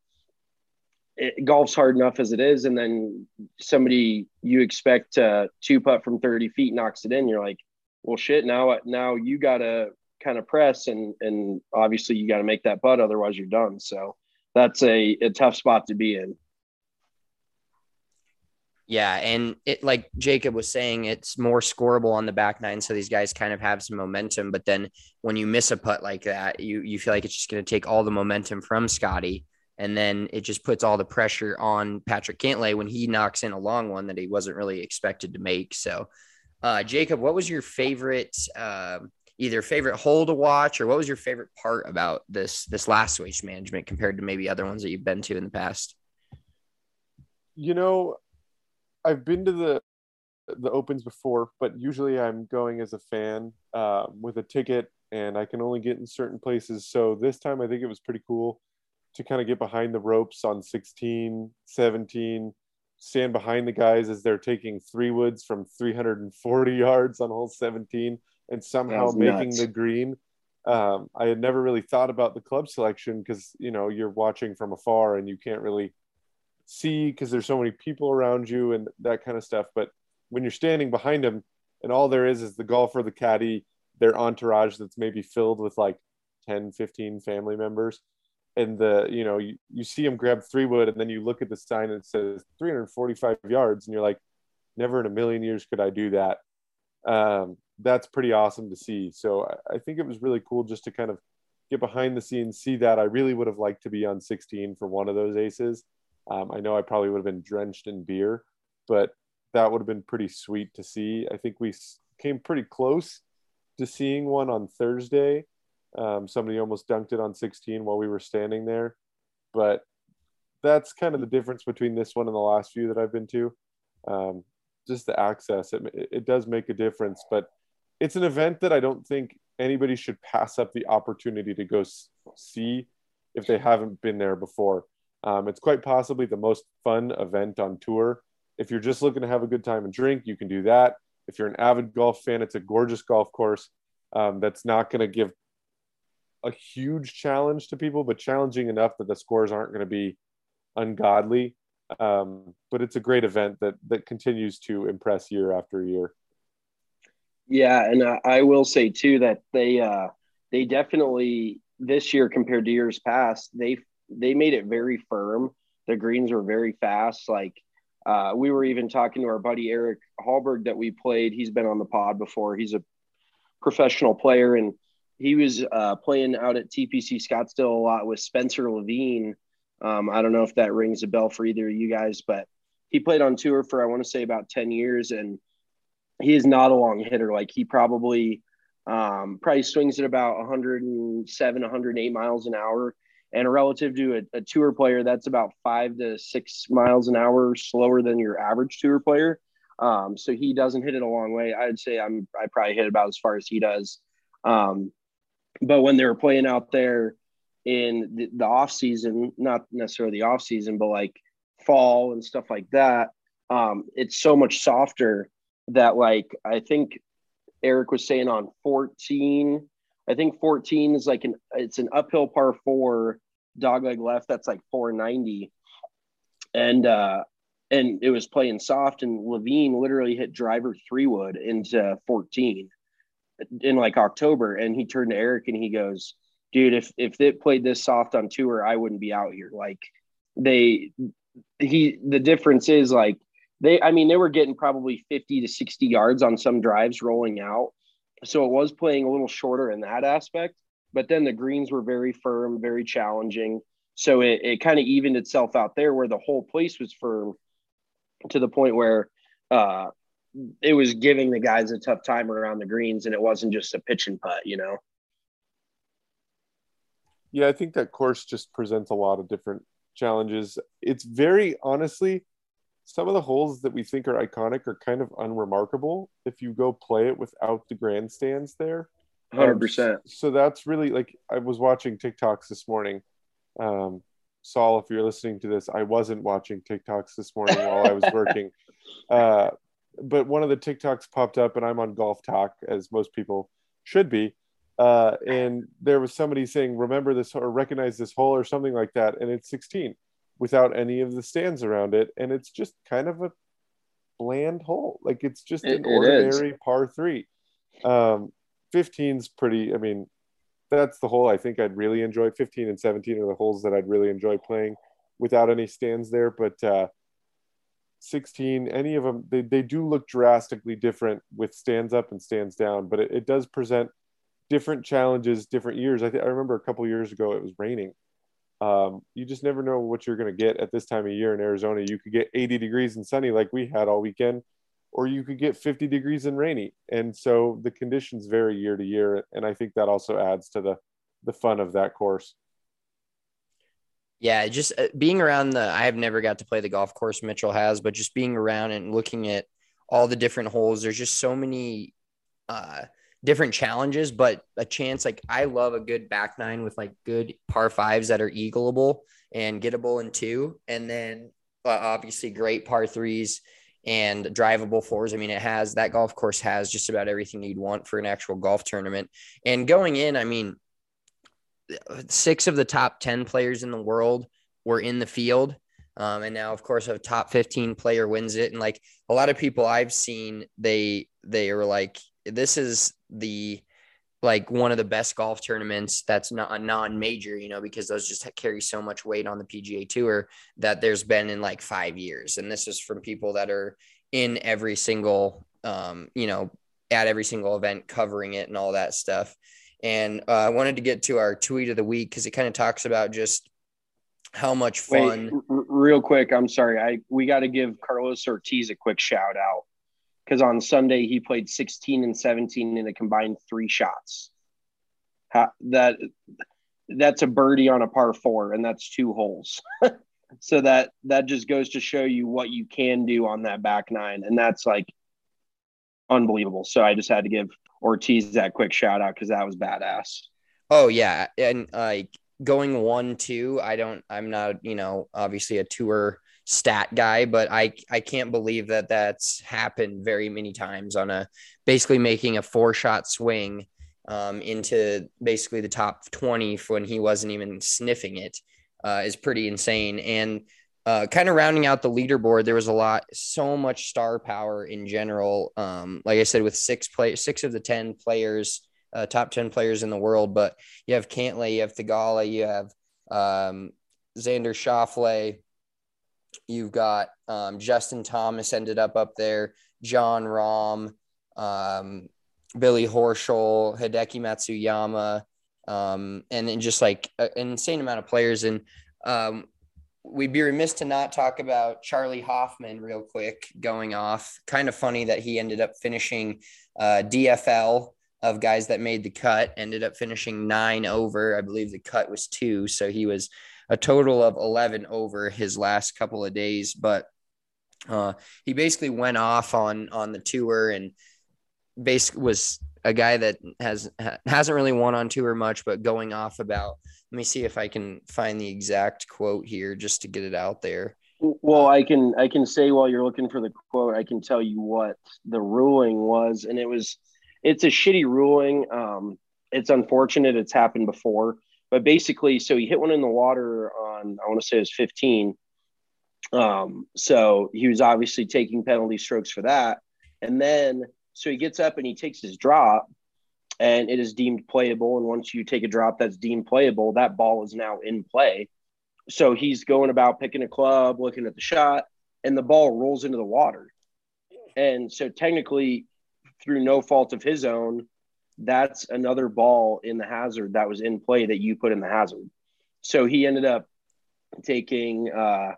golf's hard enough as it is, and then somebody you expect to 2-putt from 30 feet knocks it in. You're like, well, shit. Now you gotta kind of press, and obviously you got to make that putt, otherwise you're done. So that's a tough spot to be in. Yeah, and it, like Jacob was saying, it's more scoreable on the back nine, so these guys kind of have some momentum. But then when you miss a putt like that, you feel like it's just going to take all the momentum from Scotty, and then it just puts all the pressure on Patrick Cantlay when he knocks in a long one that he wasn't really expected to make. So, Jacob, what was your favorite, either favorite hole to watch, or what was your favorite part about this last Waste Management compared to maybe other ones that you've been to in the past? I've been to the opens before, but usually I'm going as a fan with a ticket, and I can only get in certain places. So this time I think it was pretty cool to kind of get behind the ropes on 16, 17, stand behind the guys as they're taking 3-woods from 340 yards on hole 17 and somehow making the green. I had never really thought about the club selection because, you're watching from afar and you can't really see because there's so many people around you and that kind of stuff. But when you're standing behind them and all there is the golfer, the caddy, their entourage that's maybe filled with like 10, 15 family members, and you see them grab 3-wood, and then you look at the sign and it says 345 yards, and you're like, never in a million years could I do that. That's pretty awesome to see. So I think it was really cool just to kind of get behind the scenes, see that. I really would have liked to be on 16 for one of those aces. I know I probably would have been drenched in beer, but that would have been pretty sweet to see. I think we came pretty close to seeing one on Thursday. Somebody almost dunked it on 16 while we were standing there, but that's kind of the difference between this one and the last few that I've been to. Just the access, it does make a difference, but it's an event that I don't think anybody should pass up the opportunity to go see if they haven't been there before. It's quite possibly the most fun event on tour. If you're just looking to have a good time and drink, you can do that. If you're an avid golf fan, it's a gorgeous golf course that's not going to give a huge challenge to people, but challenging enough that the scores aren't going to be ungodly. But it's a great event that continues to impress year after year. Yeah, and I will say too that they definitely this year compared to years past, they made it very firm. The greens were very fast. Like we were even talking to our buddy Eric Hallberg that we played. He's been on the pod before. He's a professional player, and he was playing out at TPC Scottsdale a lot with Spencer Levine. I don't know if that rings a bell for either of you guys, but he played on tour for I want to say about 10 years, and he is not a long hitter. Like he probably swings at about 107, 108 miles an hour. And relative to a tour player, that's about 5 to 6 miles an hour slower than your average tour player. So he doesn't hit it a long way. I'd say I probably hit about as far as he does. But when they were playing out there in the off season, not necessarily the off season, but like fall and stuff like that, it's so much softer that like I think Eric was saying on 14. I think 14 is like it's an uphill par 4 dogleg left that's like 490, and it was playing soft, and Levine literally hit driver 3-wood into 14 in like October, and he turned to Eric and he goes, "Dude, if it played this soft on tour, I wouldn't be out here." Like the difference is like they were getting probably 50 to 60 yards on some drives rolling out. So it was playing a little shorter in that aspect, but then the greens were very firm, very challenging. So it kind of evened itself out there where the whole place was firm to the point where it was giving the guys a tough time around the greens, and it wasn't just a pitch and putt, you know? Yeah, I think that course just presents a lot of different challenges. It's very honestly, some of the holes that we think are iconic are kind of unremarkable if you go play it without the grandstands there. 100%. So that's really like I was watching TikToks this morning. Saul, if you're listening to this, I wasn't watching TikToks this morning while I was working. But one of the TikToks popped up, and I'm on Golf Talk, as most people should be. And there was somebody saying, remember this or recognize this hole or something like that. And it's 16 without any of the stands around it. And it's just kind of a bland hole. Like it's just an ordinary par 3. 15's pretty, I mean, that's the hole I think I'd really enjoy. 15 and 17 are the holes that I'd really enjoy playing without any stands there. But 16, any of them, they do look drastically different with stands up and stands down, but it does present different challenges, different years. I remember a couple of years ago, it was raining. You just never know what you're going to get at this time of year in Arizona. You could get 80 degrees and sunny like we had all weekend, or you could get 50 degrees and rainy. And so the conditions vary year to year. And I think that also adds to the fun of that course. Yeah, just being around I have never got to play the golf course Mitchell has, but just being around and looking at all the different holes, there's just so many different challenges, but a chance. Like I love a good back nine with like good par 5s that are eagleable and gettable in 2. And then obviously great par 3s and drivable 4s. I mean, that golf course has just about everything you'd want for an actual golf tournament. And going in, I mean, 6 of the top 10 players in the world were in the field. And now, of course, a top 15 player wins it. And like a lot of people I've seen, they are like, this is one of the best golf tournaments that's not a non-major, because those just carry so much weight on the PGA Tour that there's been in like 5 years. And this is from people that are in every single, at every single event covering it and all that stuff. And I wanted to get to our tweet of the week because it kind of talks about just how much fun. Wait, real quick, I'm sorry. We got to give Carlos Ortiz a quick shout out because on Sunday he played 16 and 17 in a combined 3 shots. That's a birdie on a par 4, and that's 2 holes. So that just goes to show you what you can do on that back nine, and that's like unbelievable. So I just had to give Ortiz that quick shout out because that was badass. Oh yeah. And going 1-2, I'm not, obviously a tour stat guy, but I can't believe that that's happened very many times on basically making a 4-shot swing into basically the top 20 when he wasn't even sniffing it is pretty insane. And kind of rounding out the leaderboard, there was so much star power in general. Like I said, with six of the 10 players, top 10 players in the world, but you have Cantlay, you have Thigala, you have Xander Schauffele, you've got Justin Thomas ended up there, John Rahm, Billy Horschel, Hideki Matsuyama, and then just like an insane amount of players. And we'd be remiss to not talk about Charlie Hoffman real quick going off. Kind of funny that he ended up finishing DFL of guys that made the cut, ended up finishing 9 over. I believe the cut was 2. So he was a total of 11 over his last couple of days. But he basically went off on the tour and basically was a guy that hasn't really won on tour much, but going off about, let me see if I can find the exact quote here just to get it out there. Well, I can say while you're looking for the quote, I can tell you what the ruling was, and it's a shitty ruling. It's unfortunate. It's happened before, but basically, so he hit one in the water on, I want to say it was 15. So he was obviously taking penalty strokes for that. And then, so he gets up and he takes his drop and it is deemed playable. And once you take a drop that's deemed playable, that ball is now in play. So he's going about picking a club, looking at the shot, and the ball rolls into the water. And so technically, through no fault of his own, that's another ball in the hazard that was in play that you put in the hazard. So he ended up taking,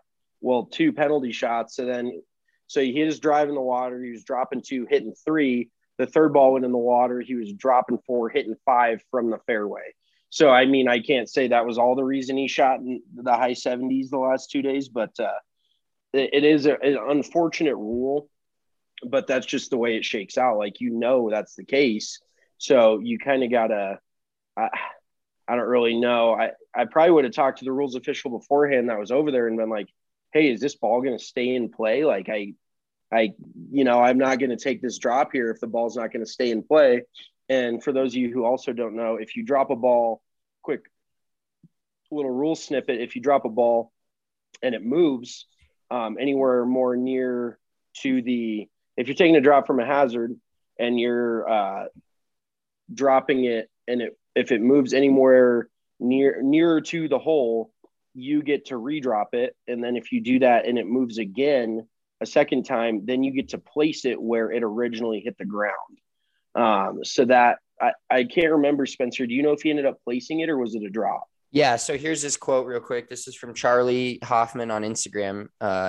2 penalty shots. So he hit his drive in the water. He was dropping 2, hitting 3. The third ball went in the water. He was dropping 4, hitting 5 from the fairway. So, I mean, I can't say that was all the reason he shot in the high 70s the last 2 days, but it is an unfortunate rule, but that's just the way it shakes out. Like, that's the case. So you kind of got to I don't really know. I probably would have talked to the rules official beforehand that was over there and been like, hey, is this ball going to stay in play? Like, I'm not going to take this drop here if the ball's not going to stay in play. And for those of you who also don't know, if you drop a ball, quick little rule snippet, if you drop a ball and it moves anywhere more near to if you're taking a drop from a hazard and you're dropping it and if it moves anywhere nearer to the hole, you get to redrop it. And then if you do that and it moves again a second time, then you get to place it where it originally hit the ground. So that I can't remember, Spencer. Do you know if he ended up placing it or was it a drop? Yeah. So here's this quote real quick. This is from Charlie Hoffman on Instagram,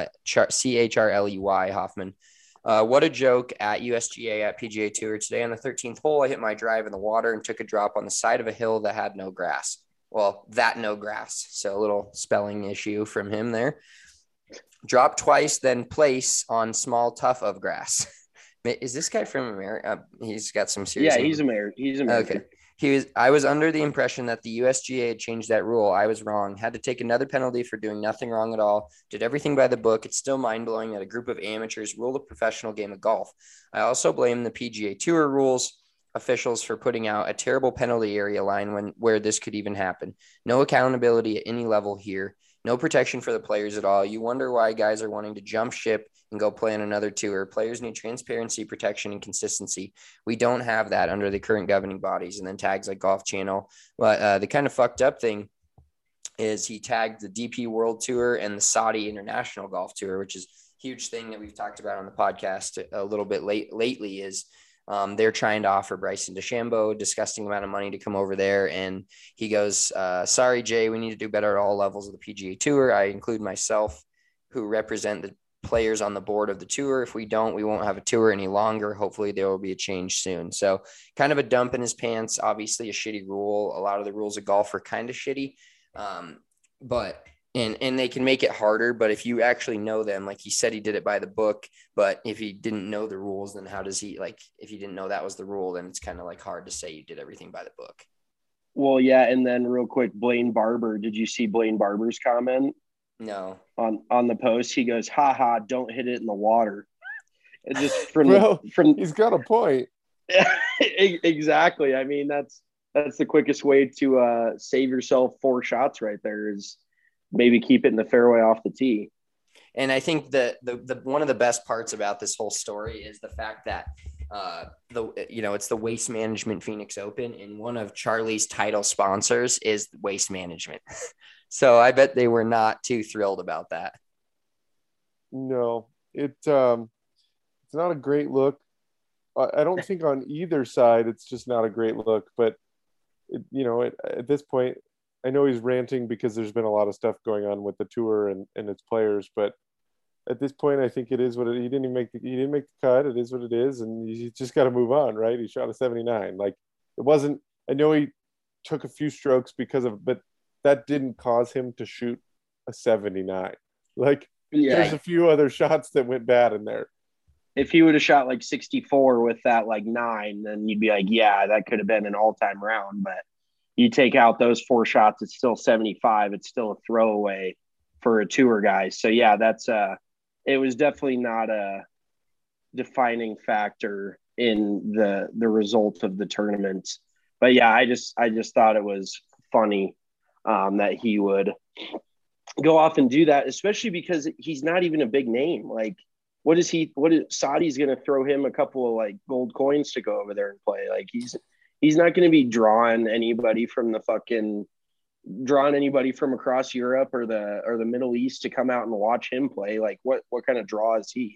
CHRLEY Hoffman. What a joke at USGA at PGA Tour. Today on the 13th hole, I hit my drive in the water and took a drop on the side of a hill that had no grass. Well, no grass. So a little spelling issue from him there. Drop twice, then place on small tuft of grass. Is this guy from America? He's got some serious. Yeah, he's American. Okay. I was under the impression that the USGA had changed that rule. I was wrong. Had to take another penalty for doing nothing wrong at all. Did everything by the book. It's still mind-blowing that a group of amateurs rule the professional game of golf. I also blame the PGA Tour rules officials for putting out a terrible penalty area line where this could even happen. No accountability at any level here. No protection for the players at all. You wonder why guys are wanting to jump ship and go play on another tour. Players need transparency, protection, and consistency. We don't have that under the current governing bodies. And then tags like Golf Channel. But the kind of fucked up thing is he tagged the DP World Tour and the Saudi International Golf Tour, which is a huge thing that we've talked about on the podcast a little bit lately is they're trying to offer Bryson DeChambeau a disgusting amount of money to come over there. And he goes, sorry, Jay, we need to do better at all levels of the PGA Tour. I include myself who represent the players on the board of the tour. If we don't, we won't have a tour any longer. Hopefully there will be a change soon. So kind of a dump in his pants, obviously a shitty rule. A lot of the rules of golf are kind of shitty. But they can make it harder, but if you actually know them, like he said, he did it by the book, but if he didn't know the rules, then how does he, like, if you didn't know that was the rule, then it's kind of like hard to say you did everything by the book. Well, yeah. And then real quick, Blaine Barber, did you see Blaine Barber's comment? No. On the post, he goes, haha, don't hit it in the water. It just from he's got a point. Exactly. I mean, that's the quickest way to save yourself 4 shots right there is maybe keep it in the fairway off the tee. And I think the one of the best parts about this whole story is the fact that it's the Waste Management Phoenix Open, and one of Charlie's title sponsors is Waste Management. So I bet they were not too thrilled about that. No, it's not a great look. I don't think on either side it's just not a great look, but at this point, I know he's ranting because there's been a lot of stuff going on with the tour and its players, but at this point, I think it is what he didn't make the cut. It is what it is, and you just got to move on, right? He shot a 79. Like, it wasn't. I know he took a few strokes but that didn't cause him to shoot a 79. Like, there's a few other shots that went bad in there. If he would have shot like 64 with that like 9, then you'd be like, yeah, that could have been an all-time round, but you take out those 4 shots, it's still 75. It's still a throwaway for a tour guy. So yeah, it was definitely not a defining factor in the result of the tournament. But yeah, I just thought it was funny that he would go off and do that, especially because he's not even a big name. Like, Saudi's going to throw him a couple of like gold coins to go over there and play. Like, he's not going to be drawing anybody from across Europe or the Middle East to come out and watch him play. Like, what kind of draw is he,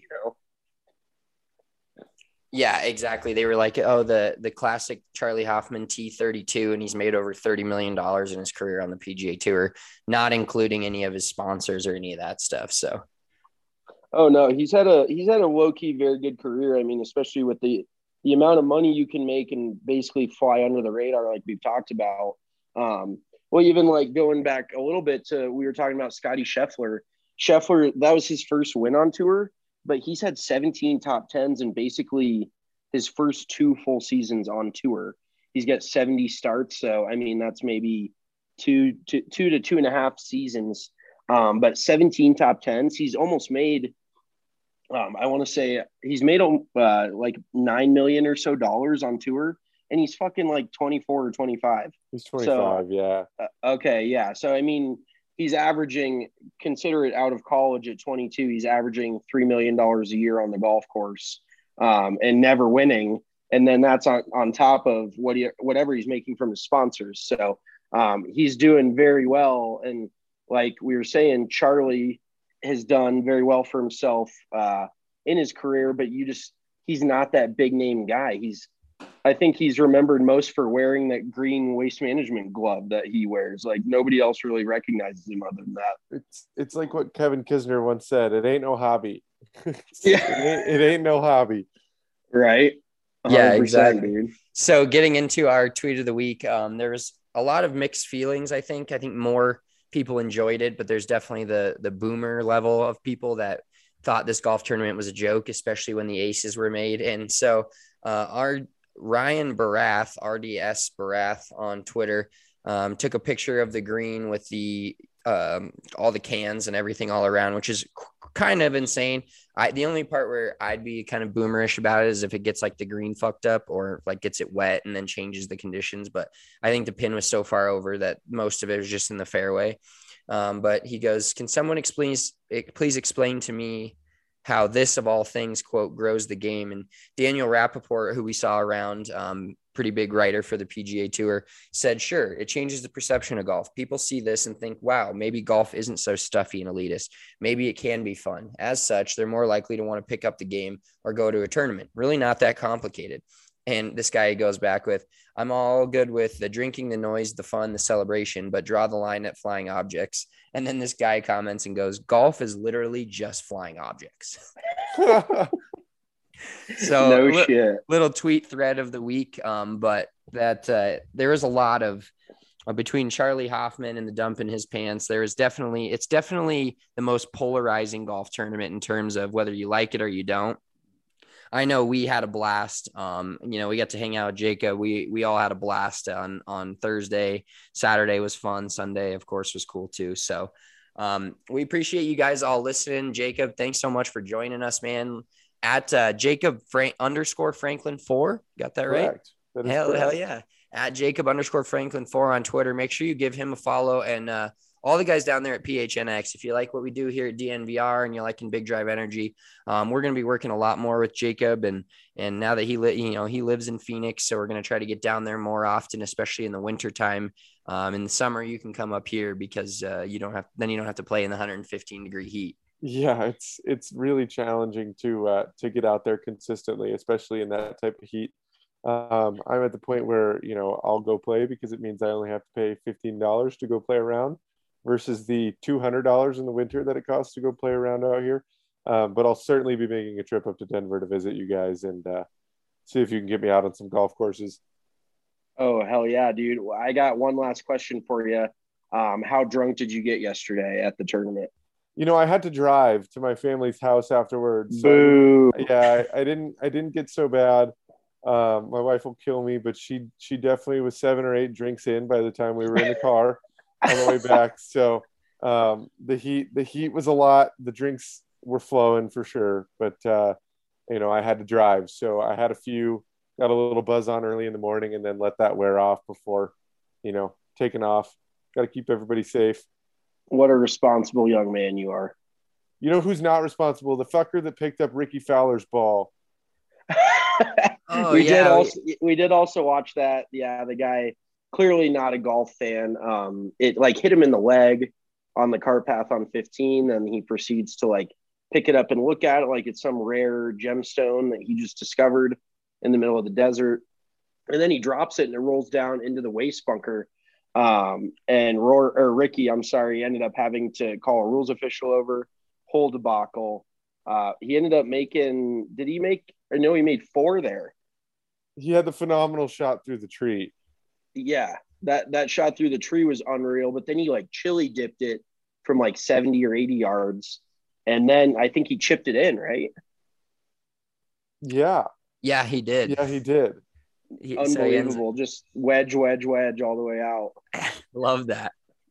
Yeah, exactly. They were like, oh, the classic Charlie Hoffman T32, and he's made over $30 million in his career on the PGA Tour, not including any of his sponsors or any of that stuff. So, oh no, he's had a low key very good career. I mean, especially with the amount of money you can make and basically fly under the radar, like we've talked about. Well, even like going back a little bit to, we were talking about Scotty Scheffler. Scheffler, that was his first win on tour, but he's had 17 top 10s in basically his first 2 full seasons on tour. He's got 70 starts. So, I mean, that's maybe 2 to 2.5 seasons. But 17 top 10s, he's almost made, I want to say he's made like $9 million or so on tour, and he's fucking like 24 or 25. He's 25, yeah. Okay, yeah. So, I mean, he's averaging, consider it out of college at 22, he's averaging $3 million a year on the golf course and never winning. And then that's on top of whatever he's making from his sponsors. So he's doing very well. And like we were saying, Charlie has done very well for himself in his career, but he's not that big name guy. I think he's remembered most for wearing that green Waste Management glove that he wears. Like, nobody else really recognizes him other than that. It's like what Kevin Kisner once said, it ain't no hobby. Yeah. It ain't no hobby. Right. Yeah, exactly. Dude. So getting into our tweet of the week, there was a lot of mixed feelings. I think more people enjoyed it, but there's definitely the boomer level of people that thought this golf tournament was a joke, especially when the aces were made. And so our Ryan Barath, RDS Barath on Twitter, took a picture of the green with the all the cans and everything all around, which is kind of insane. The only part where I'd be kind of boomerish about it is if it gets like the green fucked up or like gets it wet and then changes the conditions. But I think the pin was so far over that most of it was just in the fairway. But he goes, can someone please explain to me how this, of all things, quote, grows the game? And Daniel Rappaport, who we saw around, pretty big writer for the PGA Tour, said, sure, it changes the perception of golf. People see this and think, wow, maybe golf isn't so stuffy and elitist. Maybe it can be fun. As such, they're more likely to want to pick up the game or go to a tournament. Really not that complicated. And this guy goes back with, I'm all good with the drinking, the noise, the fun, the celebration, but draw the line at flying objects. And then this guy comments and goes, golf is literally just flying objects. So no shit. Little tweet thread of the week. But that there is a lot of between Charlie Hoffman and the dump in his pants. It's definitely the most polarizing golf tournament in terms of whether you like it or you don't. I know we had a blast. We got to hang out with Jacob. We all had a blast on Thursday. Saturday was fun. Sunday, of course, was cool too. So we appreciate you guys all listening. Jacob, thanks so much for joining us, man. At Jacob _Franklin 4. Got that right? Correct. Hell yeah. At Jacob _Franklin 4 on Twitter. Make sure you give him a follow and all the guys down there at PHNX. If you like what we do here at DNVR and you're liking Big Drive Energy, we're going to be working a lot more with Jacob. And now that he lives in Phoenix, so we're going to try to get down there more often, especially in the winter time. In the summer, you can come up here because you don't have to play in the 115-degree heat. Yeah, it's really challenging to get out there consistently, especially in that type of heat. I'm at the point where, I'll go play because it means I only have to pay $15 to go play around versus the $200 in the winter that it costs to go play around out here. But I'll certainly be making a trip up to Denver to visit you guys and see if you can get me out on some golf courses. Oh, hell yeah, dude. I got one last question for you. How drunk did you get yesterday at the tournament? I had to drive to my family's house afterwards. Boo. So I didn't get so bad. My wife will kill me, but she definitely was 7 or 8 drinks in by the time we were in the car on the way back. So the heat was a lot. The drinks were flowing for sure, but I had to drive, so I had got a little buzz on early in the morning, and then let that wear off before taking off. Got to keep everybody safe. What a responsible young man you are. You know who's not responsible? The fucker that picked up Ricky Fowler's ball. We did also watch that. Yeah, the guy clearly not a golf fan. It hit him in the leg on the cart path on 15, and he proceeds to pick it up and look at it like it's some rare gemstone that he just discovered in the middle of the desert. And then he drops it and it rolls down into the waste bunker. Ricky, ended up having to call a rules official over, whole debacle. He ended up he made 4 there. He had the phenomenal shot through the tree. Yeah, that shot through the tree was unreal, but then he chili dipped it from 70 or 80 yards. And then I think he chipped it in, right? Yeah. Yeah, he did. Yeah, he did. Unbelievable. Just wedge all the way out. Love that.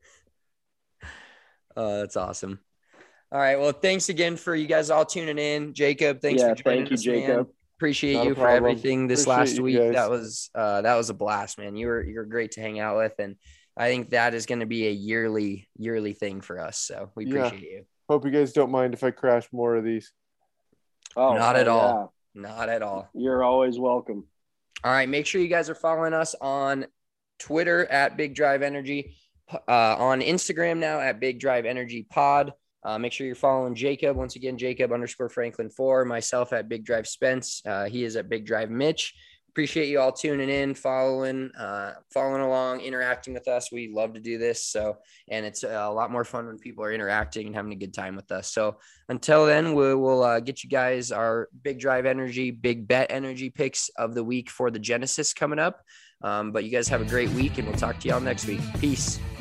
That's awesome. All right. Well, thanks again for you guys all tuning in. Jacob, thanks for joining us, Jacob. Man. Appreciate you for everything this last week. That was a blast, man. You're great to hang out with, and I think that is going to be a yearly thing for us. So we appreciate you. Hope you guys don't mind if I crash more of these. Oh, not at all. Not at all. You're always welcome. All right. Make sure you guys are following us on Twitter at Big Drive Energy, on Instagram now at Big Drive Energy Pod. Make sure you're following Jacob. Once again, Jacob_Franklin4, myself at Big Drive Spence. He is at Big Drive Mitch. Appreciate you all tuning in, following along, interacting with us. We love to do this. So, and it's a lot more fun when people are interacting and having a good time with us. So until then, we'll get you guys our Big Drive Energy, Big Bet Energy picks of the week for the Genesis coming up. But you guys have a great week, and we'll talk to y'all next week. Peace.